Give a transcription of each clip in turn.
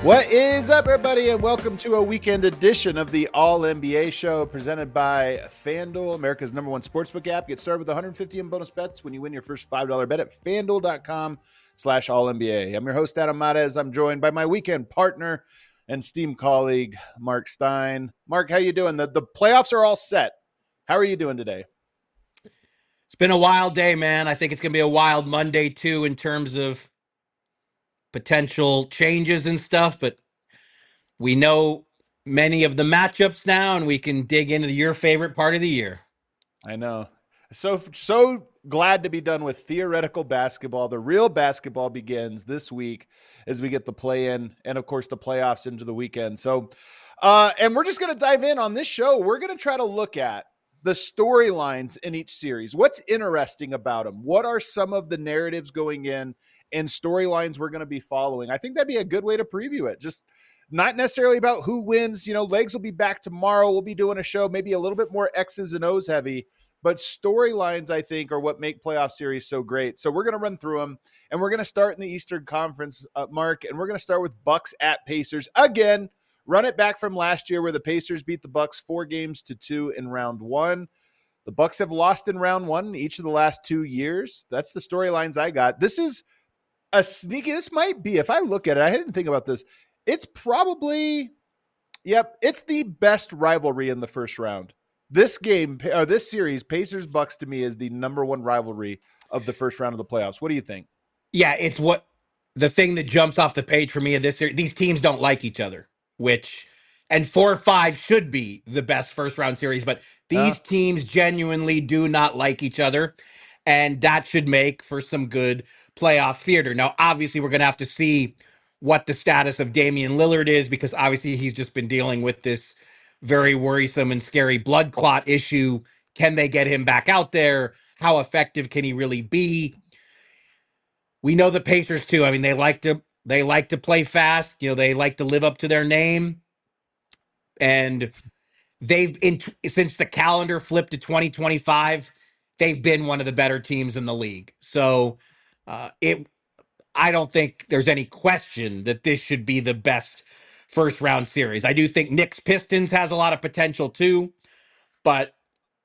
What is up, everybody, and welcome to a weekend edition of the All NBA Show presented by FanDuel, America's #1 sportsbook app. Get started with 150 in bonus bets when you win your first $5 bet at FanDuel.com/AllNBA. I'm your host, Adam Mares. I'm joined by my weekend partner and esteemed colleague, Mark Stein. Mark, how you doing? The playoffs are all set. How are you doing today? It's been a wild day, man. I think it's going to be a wild Monday, too, in terms of potential changes and stuff, but we know many of the matchups now, and we can dig into your favorite part of the year. I know. So glad to be done with theoretical basketball. The real basketball begins this week as we get the play-in and, of course, the playoffs into the weekend. So, and we're just going to dive in on this show. We're going to try to look at the storylines in each series. What's interesting about them? What are some of the narratives going in and storylines we're going to be following? I think that'd be a good way to preview it. Just not necessarily about who wins. You know, Legs will be back tomorrow. We'll be doing a show maybe a little bit more X's and O's heavy, but storylines, I think, are what make playoff series so great. So we're going to run through them, and we're going to start in the Eastern Conference, Mark, and we're going to start with Bucks at Pacers. Again, run it back from last year where the Pacers beat the Bucks 4-2 in round one. The Bucks have lost in round one each of the last 2 years. That's the storylines I got. This is a sneaky, this might be, if I look at it, I didn't think about this. It's probably, it's the best rivalry in the first round. This game, or this series, Pacers-Bucks, to me, is the #1 rivalry of the first round of the playoffs. What do you think? Yeah, it's what the thing that jumps off the page for me of this series. These teams don't like each other, and 4 or 5 should be the best first round series, but these teams genuinely do not like each other, and that should make for some good playoff theater. Now, obviously, we're going to have to see what the status of Damian Lillard is, because obviously he's just been dealing with this very worrisome and scary blood clot issue. Can they get him back out there? How effective can he really be? We know the Pacers too. I mean, they like to play fast. You know, they like to live up to their name. And since the calendar flipped to 2025, they've been one of the better teams in the league. So I don't think there's any question that this should be the best first round series. I do think Knicks Pistons has a lot of potential too, but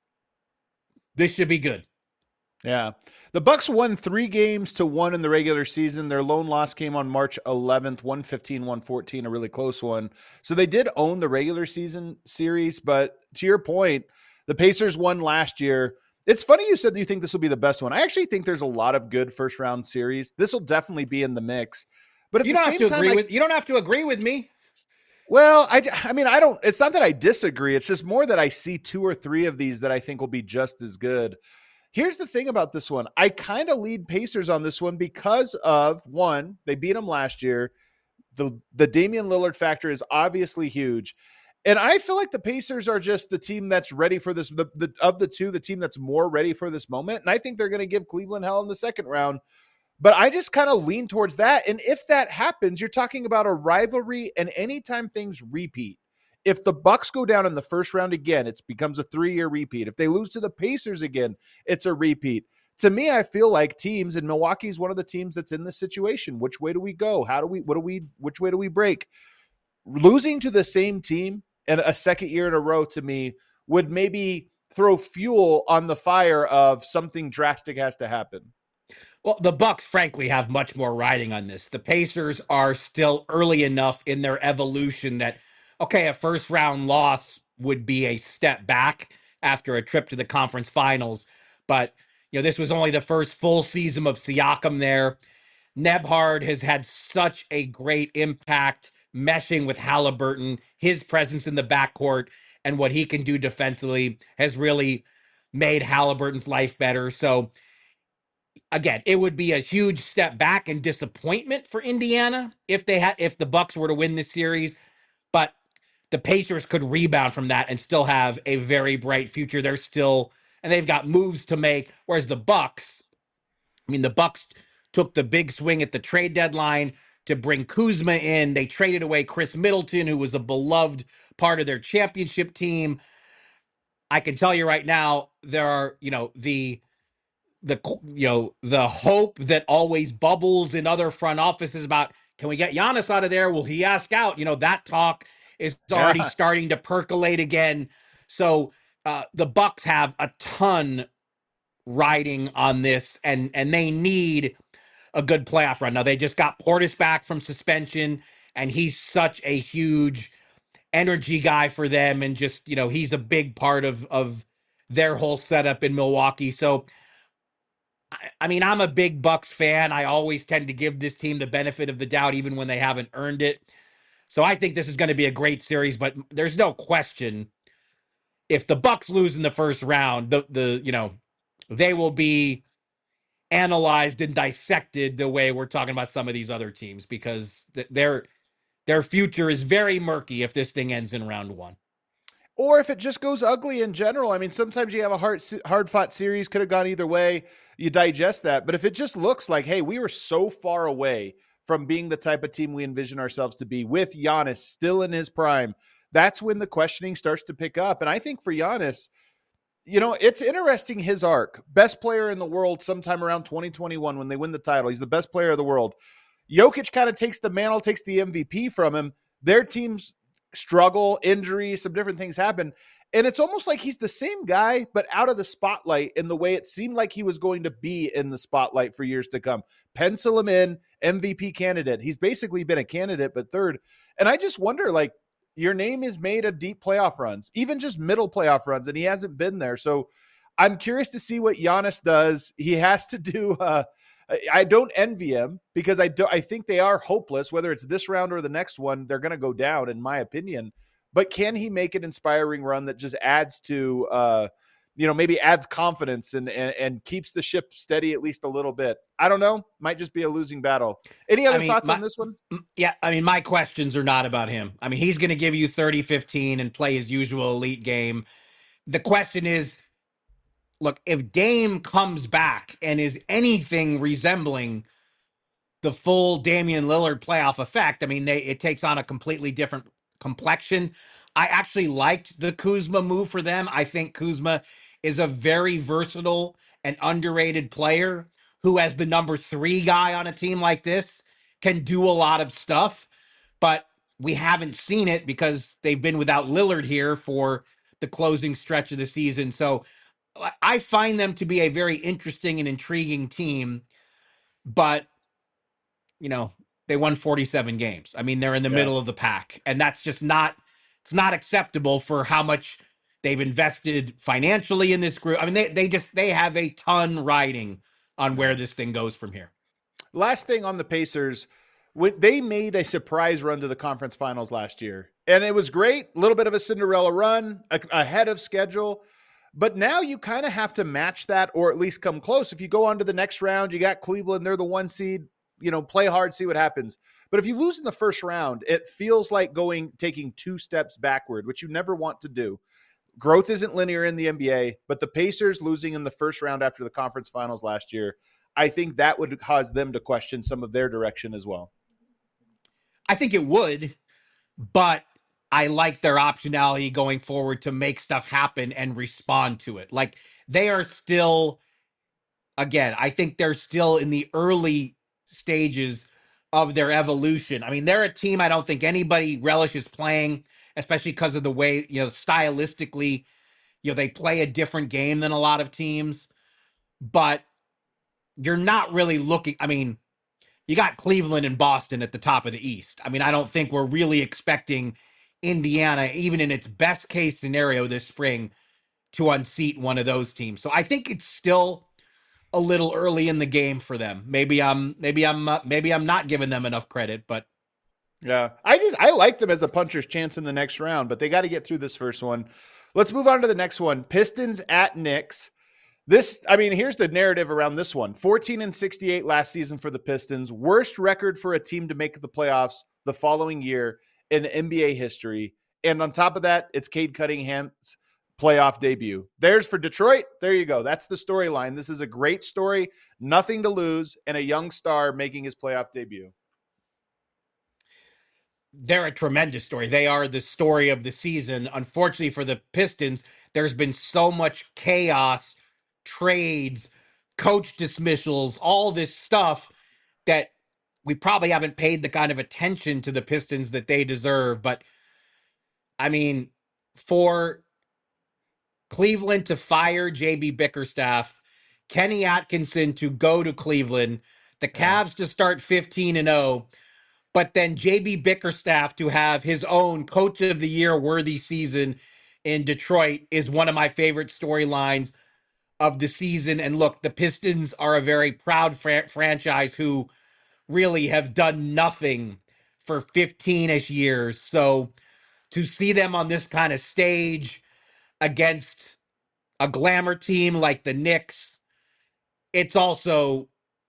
this should be good. Yeah. The Bucks won 3-1 in the regular season. Their lone loss came on March 11th, 115-114, a really close one. So they did own the regular season series, but to your point, the Pacers won last year. It's funny you said you think this will be the best one. I actually think there's a lot of good first round series. This will definitely be in the mix. But you don't have to agree with me. Well, I mean, I don't. It's not that I disagree. It's just more that I see 2 or 3 of these that I think will be just as good. Here's the thing about this one. I kind of lead Pacers on this one because of, one, they beat them last year. The Damian Lillard factor is obviously huge. And I feel like the Pacers are just the team that's ready for this, of the two, the team that's more ready for this moment. And I think they're going to give Cleveland hell in the second round. But I just kind of lean towards that. And if that happens, you're talking about a rivalry, and anytime things repeat. If the Bucks go down in the first round again, it becomes a 3-year repeat. If they lose to the Pacers again, it's a repeat. To me, I feel like teams, and Milwaukee's one of the teams that's in this situation. Which way do we go? Which way do we break? Losing to the same team and a second year in a row, to me, would maybe throw fuel on the fire of something drastic has to happen. Well, the Bucks, frankly, have much more riding on this. The Pacers are still early enough in their evolution that, okay, a first-round loss would be a step back after a trip to the conference finals. But, you know, this was only the first full season of Siakam there. Nembhard has had such a great impact meshing with Halliburton. His presence in the backcourt and what he can do defensively has really made Halliburton's life better. So, again, it would be a huge step back and disappointment for Indiana if the Bucks were to win this series, but the Pacers could rebound from that and still have a very bright future. They've got moves to make, whereas the Bucks took the big swing at the trade deadline to bring Kuzma in. They traded away Chris Middleton, who was a beloved part of their championship team. I can tell you right now, there are, the hope that always bubbles in other front offices about, can we get Giannis out of there? Will he ask out? That talk is already Yeah. starting to percolate again. So the Bucks have a ton riding on this, and they need a good playoff run. Now they just got Portis back from suspension, and he's such a huge energy guy for them, and just he's a big part of their whole setup in Milwaukee. So I mean, I'm a big Bucks fan. I always tend to give this team the benefit of the doubt, even when they haven't earned it. So I think this is going to be a great series, but there's no question if the Bucks lose in the first round, they will be analyzed and dissected the way we're talking about some of these other teams, because their future is very murky if this thing ends in round one. Or if it just goes ugly in general. I mean, sometimes you have a hard fought series, could have gone either way. You digest that. But if it just looks like, hey, we were so far away from being the type of team we envision ourselves to be with Giannis still in his prime, that's when the questioning starts to pick up. And I think for Giannis, it's interesting, his arc. Best player in the world sometime around 2021 when they win the title. He's the best player of the world. Jokic kind of takes the mantle, takes the MVP from him. Their teams struggle, injury, some different things happen. And it's almost like he's the same guy, but out of the spotlight in the way it seemed like he was going to be in the spotlight for years to come. Pencil him in, MVP candidate. He's basically been a candidate, but third. And I just wonder, like, your name is made of deep playoff runs, even just middle playoff runs, and he hasn't been there. So I'm curious to see what Giannis does. He has to do I don't envy him, because I think they are hopeless, whether it's this round or the next one. They're going to go down, in my opinion. But can he make an inspiring run that just adds to, maybe adds confidence and keeps the ship steady at least a little bit? I don't know. Might just be a losing battle. Any other thoughts on this one? Yeah, I mean, my questions are not about him. I mean, he's going to give you 30-15 and play his usual elite game. The question is, look, if Dame comes back and is anything resembling the full Damian Lillard playoff effect, I mean, it takes on a completely different complexion. I actually liked the Kuzma move for them. I think Kuzma is a very versatile and underrated player who, as the number 3 guy on a team like this, can do a lot of stuff. But we haven't seen it because they've been without Lillard here for the closing stretch of the season. So I find them to be a very interesting and intriguing team, but they won 47 games. I mean, they're in the middle of the pack, and that's just it's not acceptable for how much they've invested financially in this group. I mean, they have a ton riding on where this thing goes from here. Last thing on the Pacers, they made a surprise run to the conference finals last year, and it was great. A little bit of a Cinderella run ahead of schedule. But now you kind of have to match that, or at least come close. If you go on to the next round, you got Cleveland, they're the 1 seed, play hard, see what happens. But if you lose in the first round, it feels like taking 2 steps backward, which you never want to do. Growth isn't linear in the NBA, but the Pacers losing in the first round after the conference finals last year, I think that would cause them to question some of their direction as well. I think it would, but I like their optionality going forward to make stuff happen and respond to it. Like, they are still, again, I think they're still in the early stages of their evolution. I mean, they're a team I don't think anybody relishes playing, especially because of the way, stylistically, they play a different game than a lot of teams. But you're not really looking, I mean, you got Cleveland and Boston at the top of the East. I mean, I don't think we're really expecting Indiana, even in its best case scenario this spring, to unseat one of those teams. So I think it's still a little early in the game for them. Maybe I'm not giving them enough credit, but yeah, I like them as a puncher's chance in the next round, but they got to get through this first one. Let's move on to the next one. Pistons at Knicks. Here's the narrative around this one. 14-68 last season for the Pistons. Worst record for a team to make the playoffs the following year in NBA history. And on top of that, it's Cade Cunningham's playoff debut. There's for Detroit. There you go. That's the storyline. This is a great story. Nothing to lose, and a young star making his playoff debut. They're a tremendous story. They are the story of the season. Unfortunately for the Pistons, there's been so much chaos, trades, coach dismissals, all this stuff that we probably haven't paid the kind of attention to the Pistons that they deserve. But I mean, for Cleveland to fire JB Bickerstaff, Kenny Atkinson to go to Cleveland, the Yeah. Cavs to start 15-0, but then JB Bickerstaff to have his own coach of the year worthy season in Detroit is one of my favorite storylines of the season. And look, the Pistons are a very proud franchise who really have done nothing for 15-ish years. So to see them on this kind of stage against a glamour team like the Knicks, it's also,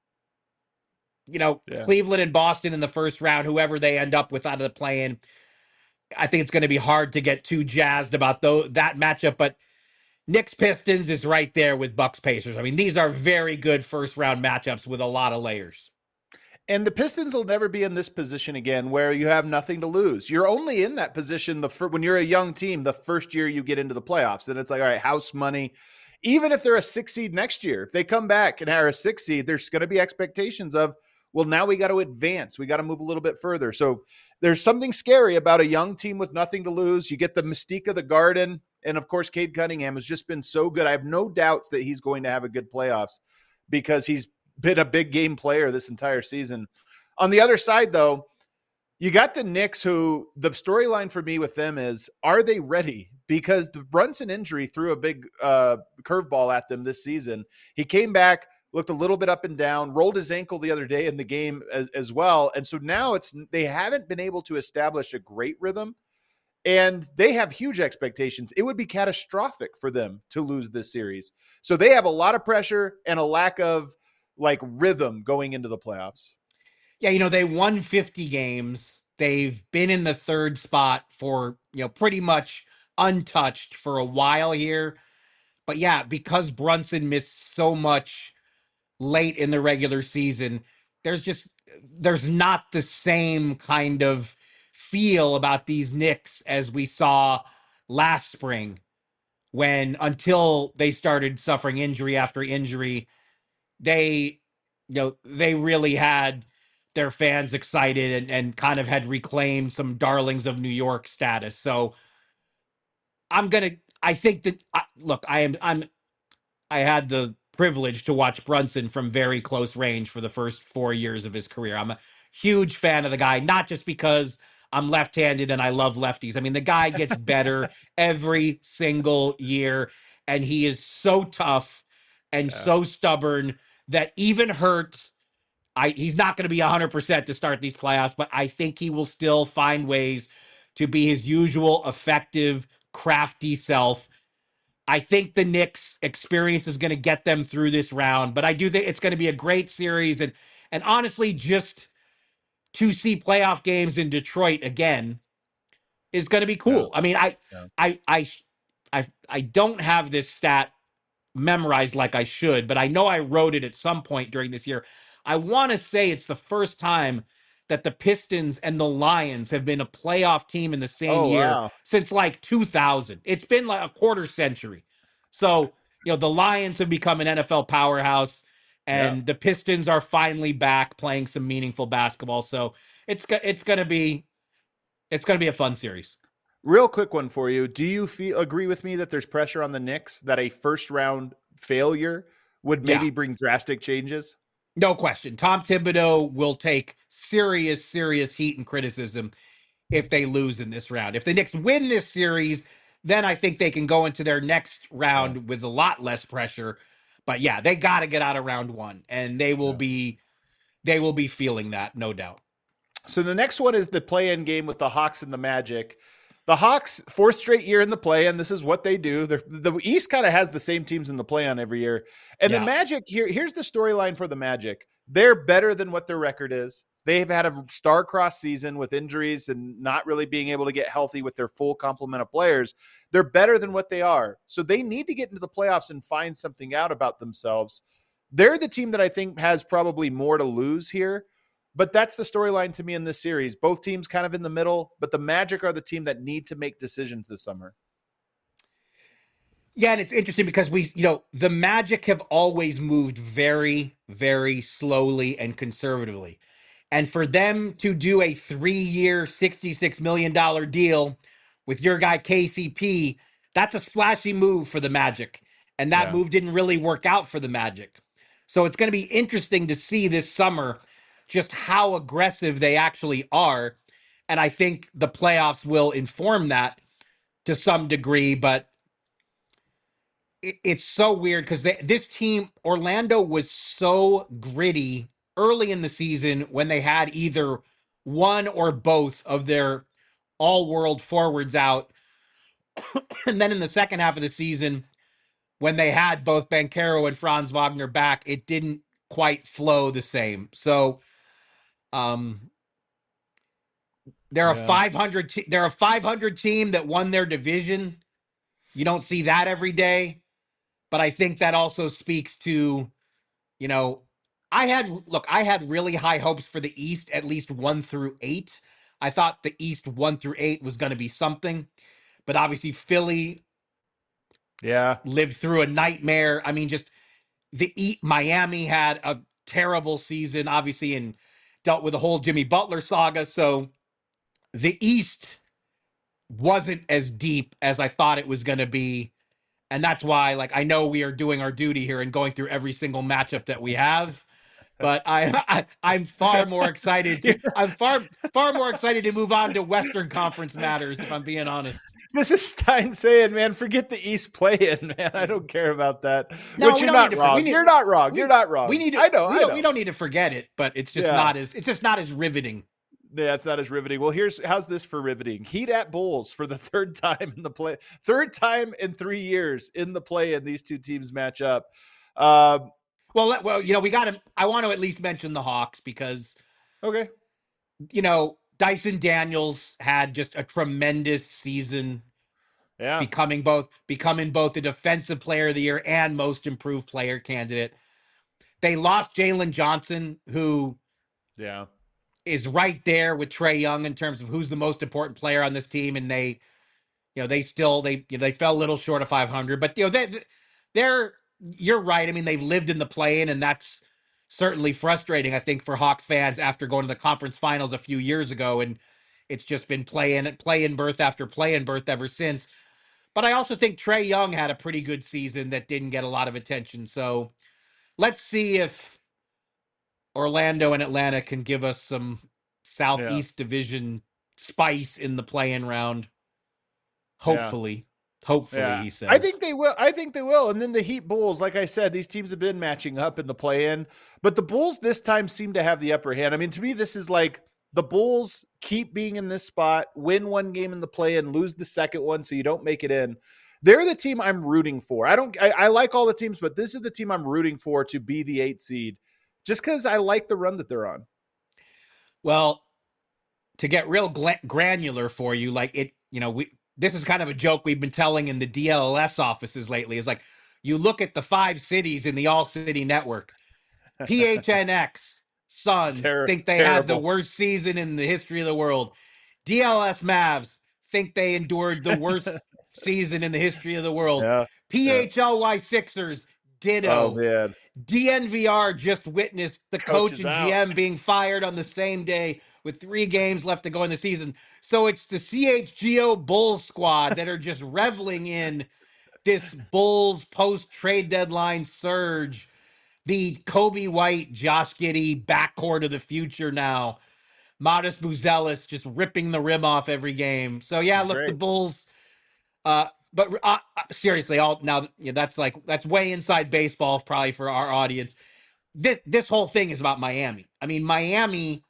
Yeah. Cleveland and Boston in the first round, whoever they end up with out of the play-in. I think it's going to be hard to get too jazzed about that matchup, but Knicks Pistons is right there with Bucks Pacers. I mean, these are very good first round matchups with a lot of layers. And the Pistons will never be in this position again where you have nothing to lose. You're only in that position when you're a young team, the first year you get into the playoffs. And it's like, all right, house money. Even if they're a 6 seed next year, if they come back and are a 6 seed, there's going to be expectations of, well, now we got to advance. We got to move a little bit further. So there's something scary about a young team with nothing to lose. You get the mystique of the Garden. And of course, Cade Cunningham has just been so good. I have no doubts that he's going to have a good playoffs because he's been a big game player this entire season. On the other side, though, you got the Knicks, who the storyline for me with them is, are they ready? Because the Brunson injury threw a big curveball at them this season. He came back, looked a little bit up and down, rolled his ankle the other day in the game as well. And so now they haven't been able to establish a great rhythm, and they have huge expectations. It would be catastrophic for them to lose this series. So they have a lot of pressure and a lack of rhythm going into the playoffs. Yeah, they won 50 games. They've been in the third spot for, pretty much untouched for a while here. But yeah, because Brunson missed so much late in the regular season, there's not the same kind of feel about these Knicks as we saw last spring, when until they started suffering injury after injury, they really had their fans excited and kind of had reclaimed some darlings of New York status. So I think that, look, I had the privilege to watch Brunson from very close range for the first 4 years of his career. I'm a huge fan of the guy, not just because I'm left-handed and I love lefties. I mean, the guy gets better every single year, and he is so tough and so stubborn that even hurt, he's not going to be 100% to start these playoffs, but I think he will still find ways to be his usual effective, crafty self. I think the Knicks experience is going to get them through this round, but I do think it's going to be a great series. And honestly, just to see playoff games in Detroit again is going to be cool. Yeah. I mean, I don't have this stat memorized like I should, but I know I wrote it at some point during this year. I want to say it's the first time that the Pistons and the Lions have been a playoff team in the same year since 2000. It's been like a quarter century. So, the Lions have become an NFL powerhouse, and the Pistons are finally back playing some meaningful basketball. So it's going to be a fun series. Real quick one for you. Do you agree with me that there's pressure on the Knicks that a first round failure would maybe bring drastic changes? No question. Tom Thibodeau will take serious heat and criticism if they lose in this round. If the Knicks win this series, then I think they can go into their next round with a lot less pressure. But yeah, they got to get out of round one, and they will be feeling that, no doubt. So the next one is the play-in game with the Hawks and the Magic. The Hawks, fourth straight year in the play-in. This is what they do. The East kind of has the same teams in the play-in every year. And the Magic, here's the storyline for the Magic. They're better than what their record is. They've had a star-crossed season with injuries and not really being able to get healthy with their full complement of players. They're better than what they are. So they need to get into the playoffs and find something out about themselves. They're the team that I think has probably more to lose here. But that's the storyline to me in this series. Both teams kind of in the middle, but the Magic are the team that need to make decisions this summer. Yeah, and it's interesting because the Magic have always moved very, very slowly and conservatively. And for them to do a 3-year, $66 million deal with your guy KCP, that's a splashy move for the Magic. And that move didn't really work out for the Magic. So it's going to be interesting to see this summer just how aggressive they actually are. And I think the playoffs will inform that to some degree, but it's so weird because this team, Orlando, was so gritty early in the season when they had either one or both of their all-world forwards out. And then in the second half of the season, when they had both Banchero and Franz Wagner back, it didn't quite flow the same. So they're a 500 team that won their division. You don't see that every day. But I think that also speaks to, I had really high hopes for the East, at least 1-8. I thought the East 1-8 was going to be something, but obviously Philly lived through a nightmare. I mean, just Miami had a terrible season, obviously, and dealt with the whole Jimmy Butler saga. So the East wasn't as deep as I thought it was going to be. And that's why, I know we are doing our duty here and going through every single matchup that we have, but I'm far more excited. I'm far more excited to move on to Western Conference matters, if I'm being honest. This is Stein saying, man, forget the East play-in, man. I don't care about that. No, Which you're not wrong. You're not wrong. You're not wrong. We don't need to forget it, but it's just not as riveting. Yeah, it's not as riveting. Well, how's this for riveting? Heat at Bulls for the third time in 3 years in the play, and these two teams match up. Well, we got to. I want to at least mention the Hawks because, Dyson Daniels had just a tremendous season. Yeah, becoming both the defensive player of the year and most improved player candidate. They lost Jalen Johnson, who, is right there with Trae Young in terms of who's the most important player on this team, and they fell a little short of 500. But they're you're right. I mean, they've lived in the play-in, and that's certainly frustrating, I think, for Hawks fans after going to the conference finals a few years ago, and it's just been play-in berth after play-in berth ever since. But I also think Trae Young had a pretty good season that didn't get a lot of attention. So let's see if Orlando and Atlanta can give us some Southeast Division spice in the play-in round. Hopefully. He says. I think they will. And then the Heat Bulls, like I said, these teams have been matching up in the play-in, but the Bulls this time seem to have the upper hand. I mean, to me, this is like the Bulls keep being in this spot, win one game in the play-in, lose the second one, so you don't make it in. They're the team I'm rooting for. I like all the teams, but this is the team I'm rooting for to be the 8th seed. Just because I like the run that they're on. Well, to get real granular for you, this is kind of a joke we've been telling in the DLS offices lately. Is like, you look at the 5 cities in the All-City Network. PHNX, Suns, think they had the worst season in the history of the world. DLS Mavs think they endured the worst season in the history of the world. PHLY Sixers, ditto. Oh, man. DNVR just witnessed the coach and GM being fired on the same day with 3 games left to go in the season. So it's the CHGO Bulls squad that are just reveling in this Bulls post-trade deadline surge. The Kobe White, Josh Giddey backcourt of the future now. Modest Buzelis just ripping the rim off every game. So, the Bulls... But seriously, that's way inside baseball probably for our audience. This whole thing is about Miami. I mean, Miami,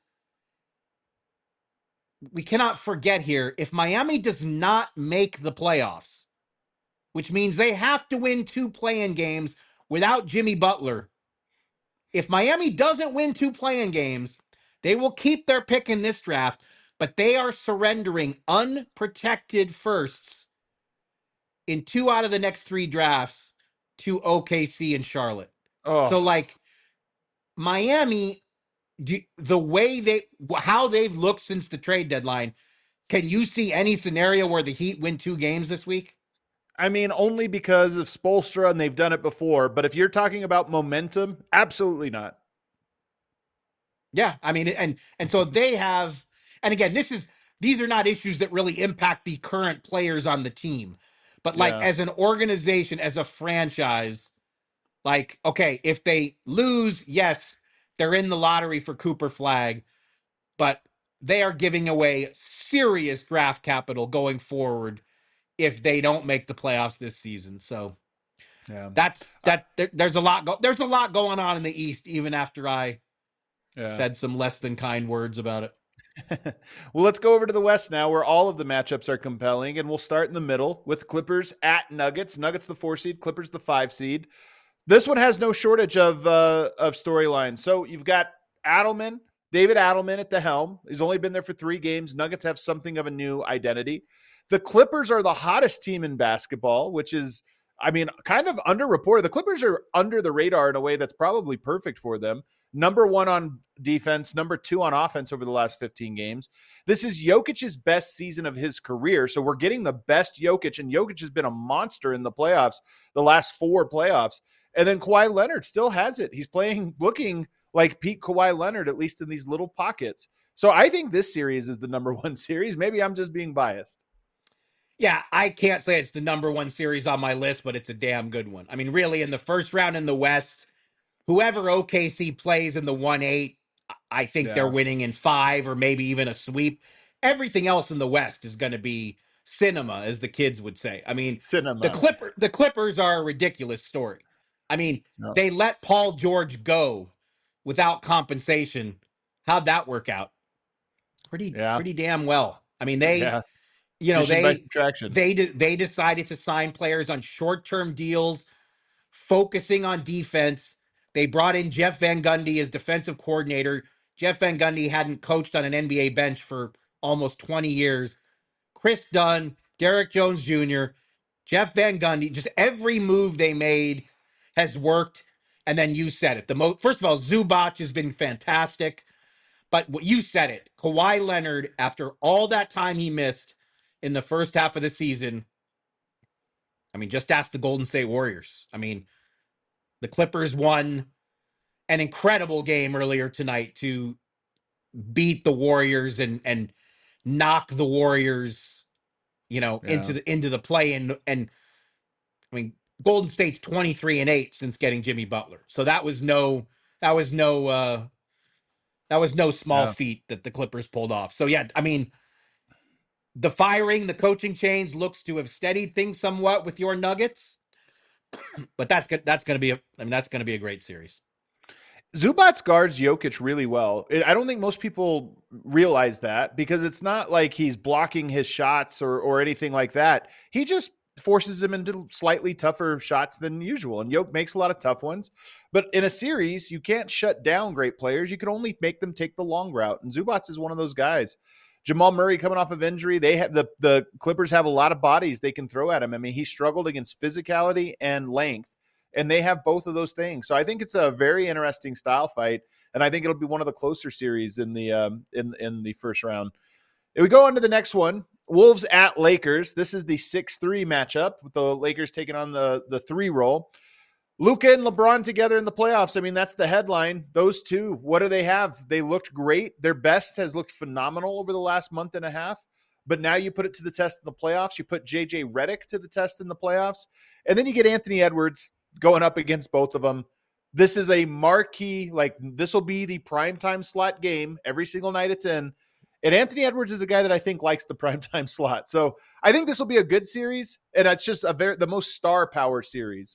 we cannot forget here, if Miami does not make the playoffs, which means they have to win 2 play-in games without Jimmy Butler. If Miami doesn't win 2 play-in games, they will keep their pick in this draft, but they are surrendering unprotected firsts in 2 out of the next 3 drafts to OKC and Charlotte. So Miami, how they've looked since the trade deadline, can you see any scenario where the Heat win 2 games this week? I mean, only because of Spoelstra, and they've done it before. But if you're talking about momentum, absolutely not. Yeah, I mean, and so they have, and again, these are not issues that really impact the current players on the team, but like Yeah. as an organization, as a franchise, like okay, if they lose, yes, they're in the lottery for Cooper Flag, but they are giving away serious draft capital going forward if they don't make the playoffs this season. So Yeah. there's there's a lot going on in the East, even after I Yeah. said some less than kind words about it. Well, let's go over to the West now, where all of the matchups are compelling, and we'll start in the middle with Clippers at Nuggets. Nuggets the 4 seed, Clippers the 5 seed. This one has no shortage of storylines. So you've got Adelman, David Adelman at the helm. He's only been there for 3 games. Nuggets have something of a new identity. The Clippers are the hottest team in basketball, which is, I mean, kind of underreported. The Clippers are under the radar in a way that's probably perfect for them. Number 1 on defense, number 2 on offense over the last 15 games. This is Jokic's best season of his career. So we're getting the best Jokic, and Jokic has been a monster in the playoffs, the last 4 playoffs. And then Kawhi Leonard still has it. He's looking like peak Kawhi Leonard, at least in these little pockets. So I think this series is the number 1 series. Maybe I'm just being biased. Yeah, I can't say it's the number 1 series on my list, but it's a damn good one. I mean, really, in the first round in the West, whoever OKC plays in the 1-8, I think they're Yeah. winning in 5 or maybe even a sweep. Everything else in the West is going to be cinema, as the kids would say. I mean, Cinema. the Clippers are a ridiculous story. I mean, No. they let Paul George go without compensation. How'd that work out? Yeah. Pretty damn well. I mean, Yeah. you know, Addition by subtraction. they decided to sign players on short-term deals, focusing on defense. They brought in Jeff Van Gundy as defensive coordinator. Jeff Van Gundy hadn't coached on an NBA bench for almost 20 years. Chris Dunn, Derek Jones Jr., Jeff Van Gundy, just every move they made has worked. And then you said it. First of all, Zubac has been fantastic. But what you said it, Kawhi Leonard, after all that time he missed in the first half of the season, I mean, just ask the Golden State Warriors. I mean, the Clippers won an incredible game earlier tonight to beat the Warriors and knock the Warriors, into the play and I mean, Golden State's 23-8 since getting Jimmy Butler. So that was no small feat that the Clippers pulled off. So yeah, I mean, the firing, the coaching change looks to have steadied things somewhat with your Nuggets, but that's going to be a great series. Zubac guards Jokic really well. I don't think most people realize that, because it's not like he's blocking his shots or anything like that. He just forces him into slightly tougher shots than usual. And Jokic makes a lot of tough ones. But in a series, you can't shut down great players. You can only make them take the long route. And Zubac is one of those guys. Jamal Murray coming off of injury. They have the Clippers have a lot of bodies they can throw at him. I mean, he struggled against physicality and length, and they have both of those things. So I think it's a very interesting style fight, and I think it'll be one of the closer series in the in the first round. If we go on to the next one, Wolves at Lakers. This is the 6-3 matchup with the Lakers taking on the 3 role. Luka and LeBron together in the playoffs. I mean, that's the headline. Those two, what do they have? They looked great. Their best has looked phenomenal over the last month and a half. But now you put it to the test in the playoffs. You put JJ Redick to the test in the playoffs. And then you get Anthony Edwards going up against both of them. This is a marquee, like this will be the primetime slot game every single night it's in. And Anthony Edwards is a guy that I think likes the primetime slot. So I think this will be a good series. And it's just the most star power series.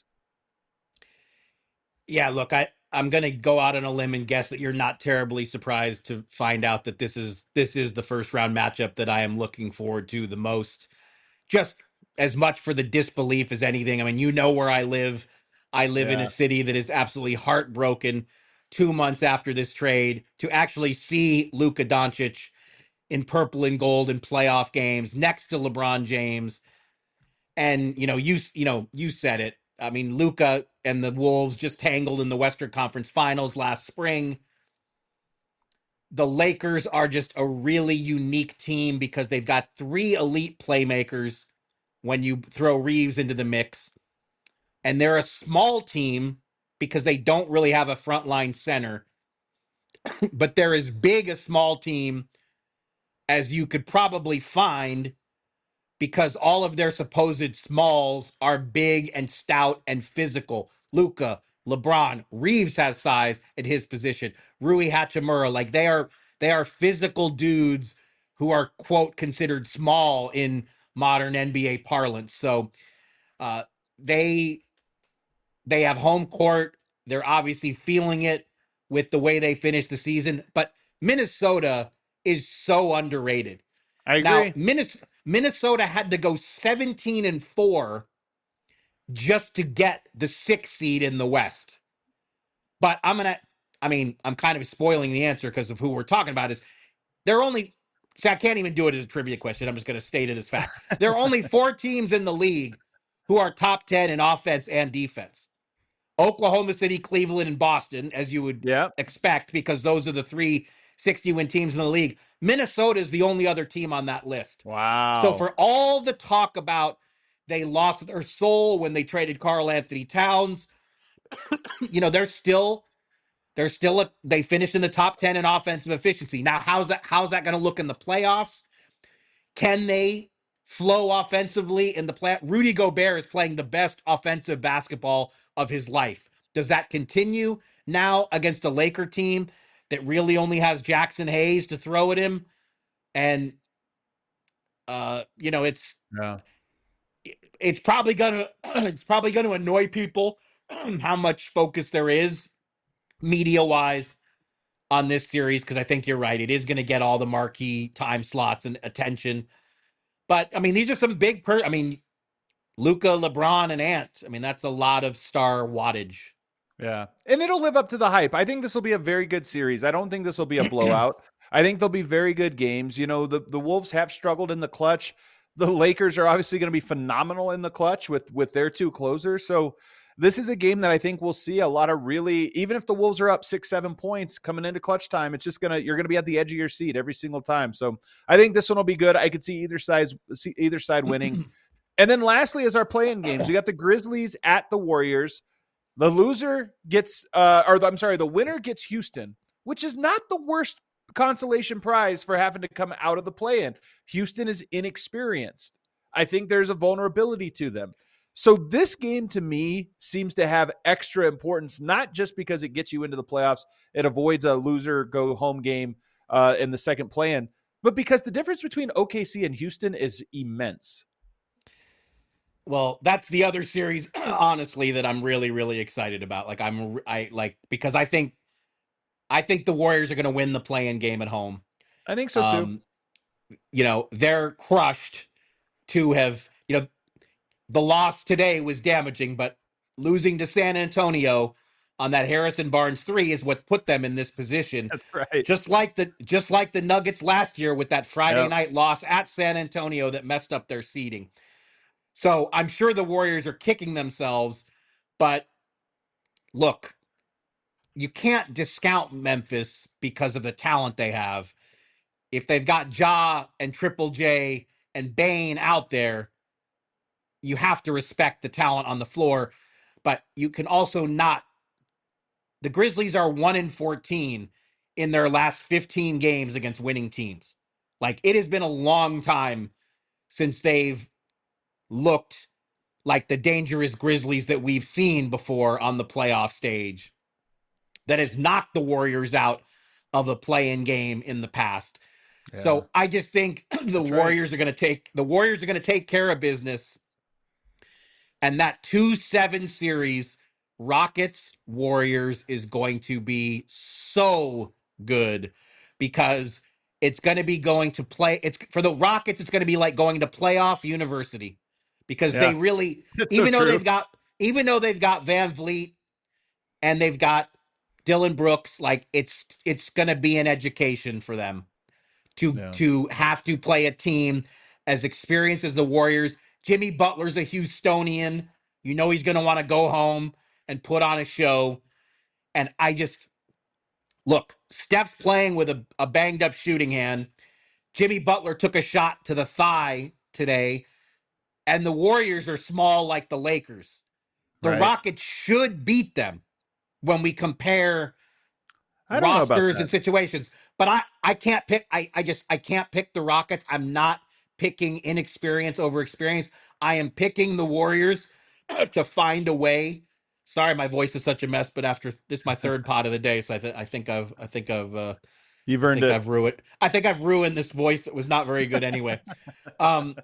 Yeah, look, I'm going to go out on a limb and guess that you're not terribly surprised to find out that this is the first round matchup that I am looking forward to the most, just as much for the disbelief as anything. I mean, you know where I live. I live in a city that is absolutely heartbroken 2 months after this trade to actually see Luka Doncic in purple and gold in playoff games next to LeBron James. And, you said it. I mean, Luka and the Wolves just tangled in the Western Conference Finals last spring. The Lakers are just a really unique team because they've got 3 elite playmakers when you throw Reeves into the mix. And they're a small team because they don't really have a frontline center. but they're as big a small team as you could probably find because all of their supposed smalls are big and stout and physical. Luka, LeBron, Reeves has size at his position. Rui Hachimura, like they are physical dudes who are quote considered small in modern NBA parlance. So uh, they they have home court. They're obviously feeling it with the way they finished the season, but Minnesota is so underrated. I Now, agree. Minnesota had to go 17-4 just to get the 6th seed in the West. But I'm kind of spoiling the answer because of who we're talking about is they're only see, I can't even do it as a trivia question. I'm just going to state it as fact. There are only 4 teams in the league who are top 10 in offense and defense. Oklahoma City, Cleveland, and Boston, as you would expect, because those are the 3 60-win teams in the league. Minnesota is the only other team on that list. Wow. So for all the talk about they lost their soul when they traded Karl Anthony Towns, they finished in the top 10 in offensive efficiency. Now, how's that going to look in the playoffs? Can they flow offensively in the play? Rudy Gobert is playing the best offensive basketball of his life. Does that continue now against a Laker team that really only has Jackson Hayes to throw at him? And it's probably gonna annoy people how much focus there is media wise on this series, because I think you're right. It is going to get all the marquee time slots and attention. But I mean, these are some big Luka, LeBron, and Ant. I mean, that's a lot of star wattage. Yeah. And it'll live up to the hype. I think this will be a very good series. I don't think this will be a blowout. I think there'll be very good games. You know, the Wolves have struggled in the clutch. The Lakers are obviously going to be phenomenal in the clutch with their 2 closers. So this is a game that I think we'll see a lot of really, even if the Wolves are up 6-7 points coming into clutch time, it's just you're going to be at the edge of your seat every single time. So I think this one will be good. I could see either side winning. And then lastly is our play-in games. We got the Grizzlies at the Warriors. The loser gets, the winner gets Houston, which is not the worst consolation prize for having to come out of the play-in. Houston is inexperienced. I think there's a vulnerability to them. So this game to me seems to have extra importance, not just because it gets you into the playoffs, it avoids a loser go home game in the second play-in, but because the difference between OKC and Houston is immense. Well, that's the other series, honestly, that I'm really, really excited about. Because I think the Warriors are going to win the play-in game at home. I think so too. They're crushed to have, the loss today was damaging, but losing to San Antonio on that Harrison Barnes 3 is what put them in this position. That's right. Just like the Nuggets last year with that Friday night loss at San Antonio that messed up their seeding. So I'm sure the Warriors are kicking themselves, but look, you can't discount Memphis because of the talent they have. If they've got Ja and Triple J and Bane out there, you have to respect the talent on the floor, but you can also not. The Grizzlies are 1-14 in their last 15 games against winning teams. Like, it has been a long time since they've looked like the dangerous Grizzlies that we've seen before on the playoff stage that has knocked the Warriors out of a play-in game in the past. Yeah. So I just think the Warriors are going to take care of business. And that 2-7 series, Rockets Warriors, is going to be so good because it's going to be going to play. It's for the Rockets. It's going to be like going to playoff university because they really, even though they've got Van Vliet and they've got Dillon Brooks, like it's going to be an education for them to have to play a team as experienced as the Warriors. Jimmy Butler's a Houstonian. He's going to want to go home and put on a show. And look, Steph's playing with a banged up shooting hand. Jimmy Butler took a shot to the thigh today. And the Warriors are small like the Lakers. The Rockets should beat them when we compare I don't know about rosters that. and situations. But I can't pick. I can't pick the Rockets. I'm not picking inexperience over experience. I am picking the Warriors to find a way. Sorry, my voice is such a mess. But after this, my third pot of the day, so You've earned it. I think I've ruined this voice that was not very good anyway. Um,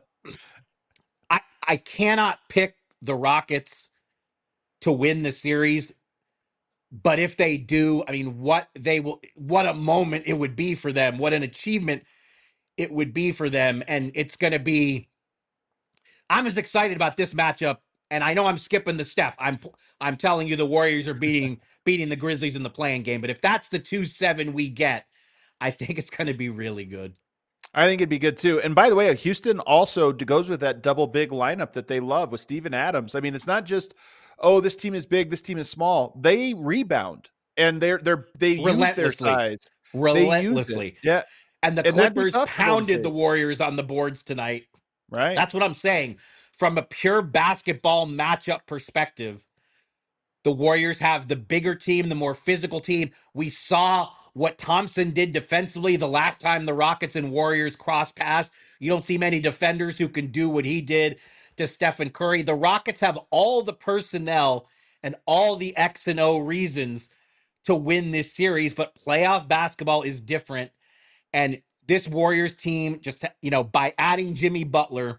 I cannot pick the Rockets to win the series, but if they do, I mean, what a moment it would be for them. What an achievement it would be for them. And it's going to be, I'm as excited about this matchup. And I know I'm skipping the step. I'm telling you the Warriors are beating the Grizzlies in the playing game. But if that's the 2-7 we get, I think it's going to be really good. I think it'd be good too. And by the way, Houston also goes with that double big lineup that they love with Steven Adams. I mean, it's not just, oh, this team is big, this team is small. They rebound and they use their size. Relentlessly. Yeah. And the Clippers pounded the Warriors on the boards tonight. Right. That's what I'm saying. From a pure basketball matchup perspective, the Warriors have the bigger team, the more physical team. We saw what Thompson did defensively the last time the Rockets and Warriors crossed paths. You don't see many defenders who can do what he did to Stephen Curry. The Rockets have all the personnel and all the X and O reasons to win this series, but playoff basketball is different. And this Warriors team, just, by adding Jimmy Butler,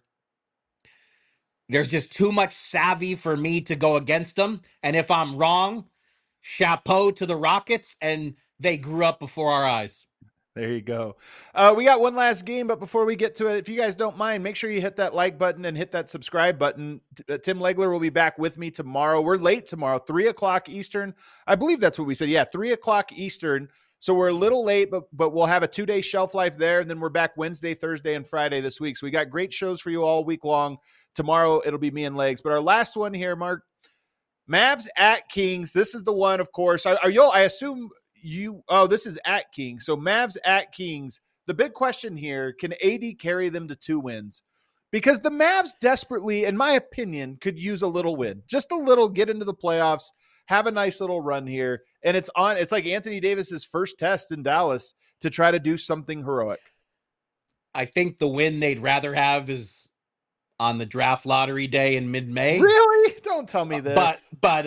there's just too much savvy for me to go against them. And if I'm wrong, chapeau to the Rockets, and they grew up before our eyes. There you go. We got one last game, but before we get to it, if you guys don't mind, make sure you hit that like button and hit that subscribe button. Tim Legler will be back with me tomorrow. We're late tomorrow, 3:00 Eastern. I believe that's what we said. Yeah, 3:00 Eastern. So we're a little late, but we'll have a 2-day shelf life there, and then we're back Wednesday, Thursday, and Friday this week. So we got great shows for you all week long. Tomorrow it'll be me and Legs. But our last one here, Mark, Mavs at Kings. This is the one, of course. I assume this is at Kings. So Mavs at Kings. The big question here, can AD carry them to 2 wins? Because the Mavs desperately, in my opinion, could use a little win. Just a little, get into the playoffs, have a nice little run here. And it's like Anthony Davis's first test in Dallas to try to do something heroic. I think the win they'd rather have is on the draft lottery day in mid-May. Really? Don't tell me this. But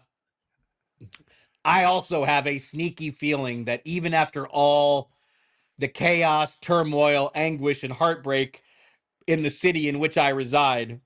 I also have a sneaky feeling that even after all the chaos, turmoil, anguish, and heartbreak in the city in which I reside,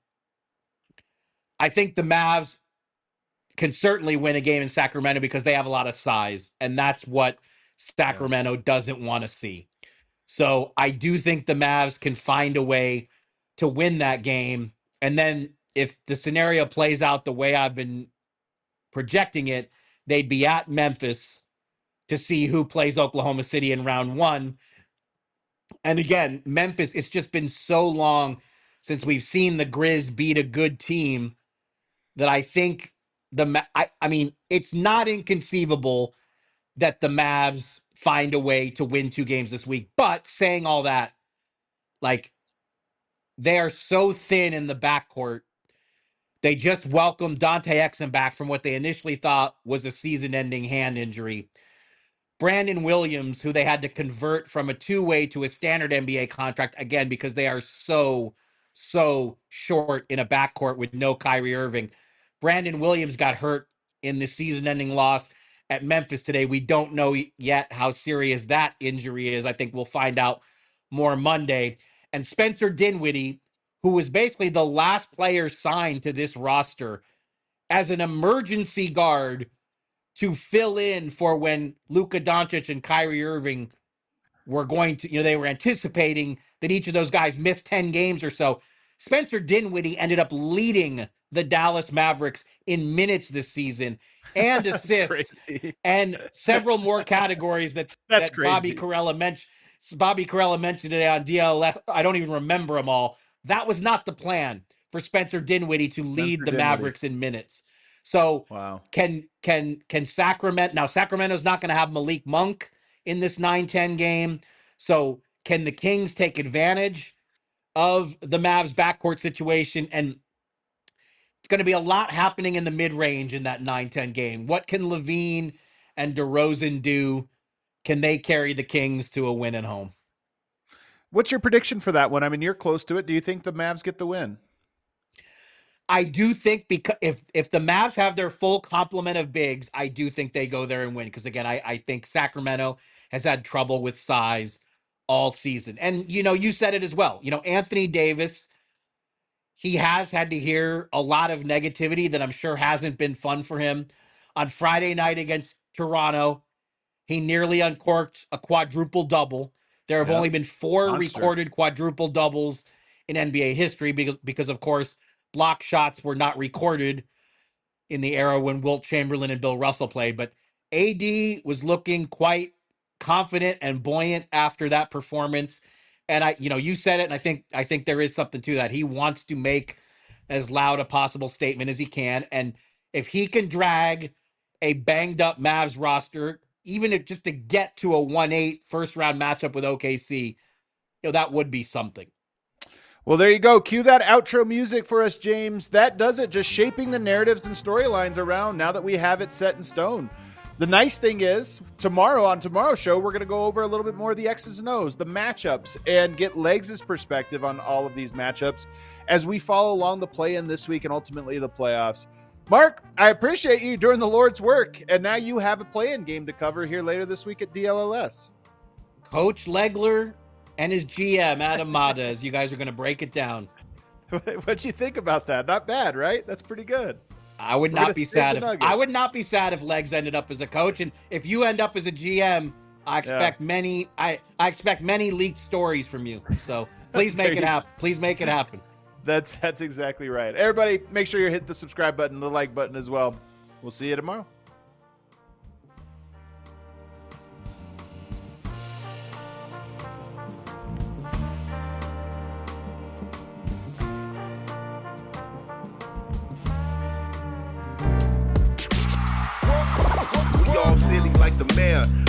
I think the Mavs can certainly win a game in Sacramento because they have a lot of size, and that's what Sacramento doesn't want to see. So I do think the Mavs can find a way to win that game. And then if the scenario plays out the way I've been projecting it, they'd be at Memphis to see who plays Oklahoma City in round 1. And again, Memphis, it's just been so long since we've seen the Grizz beat a good team that I think I mean, it's not inconceivable that the Mavs find a way to win 2 games this week. But saying all that, like, they are so thin in the backcourt. They just welcomed Dante Exum back from what they initially thought was a season-ending hand injury. Brandon Williams, who they had to convert from a 2-way to a standard NBA contract, again, because they are so short in a backcourt with no Kyrie Irving. Brandon Williams got hurt in the season-ending loss at Memphis today. We don't know yet how serious that injury is. I think we'll find out more Monday. And Spencer Dinwiddie, who was basically the last player signed to this roster as an emergency guard to fill in for when Luka Doncic and Kyrie Irving were going to, they were anticipating that each of those guys missed 10 games or so. Spencer Dinwiddie ended up leading the Dallas Mavericks in minutes this season and assists and several more categories that Bobby Carella mentioned. Bobby Carella mentioned today on DLS. I don't even remember them all. That was not the plan for Spencer Dinwiddie to lead the Mavericks in minutes. So can Sacramento, now Sacramento's not going to have Malik Monk in this 9-10 game. So can the Kings take advantage of the Mavs backcourt situation? And it's going to be a lot happening in the mid-range in that 9-10 game. What can Levine and DeRozan do can they carry the Kings to a win at home? What's your prediction for that one? I mean, you're close to it. Do you think the Mavs get the win? I do think because if the Mavs have their full complement of bigs, I do think they go there and win. Because again, I think Sacramento has had trouble with size all season. And, you said it as well. Anthony Davis, he has had to hear a lot of negativity that I'm sure hasn't been fun for him. On Friday night against Toronto, he nearly uncorked a quadruple double. There have only been 4 recorded quadruple doubles in NBA history because, of course, block shots were not recorded in the era when Wilt Chamberlain and Bill Russell played. But AD was looking quite confident and buoyant after that performance. And you said it, and I think there is something to that. He wants to make as loud a possible statement as he can. And if he can drag a banged up Mavs roster, even if just to get to a 1-8 first round matchup with OKC, that would be something. Well, there you go. Cue that outro music for us, James. That does it. Just shaping the narratives and storylines around now that we have it set in stone. The nice thing is, on tomorrow's show, we're going to go over a little bit more of the X's and O's, the matchups, and get Legs' perspective on all of these matchups as we follow along the play-in this week and ultimately the playoffs. Mark, I appreciate you doing the Lord's work, and now you have a play-in game to cover here later this week at DLLS. Coach Legler and his GM, Adam Mata, as you guys are going to break it down. What'd you think about that? Not bad, right? That's pretty good. I would not be sad if Legs ended up as a coach, and if you end up as a GM, I expect many leaked stories from you. So please make it happen. Please make it happen. That's exactly right. Everybody, make sure you hit the subscribe button, the like button as well. We'll see you tomorrow. We all silly like the mayor.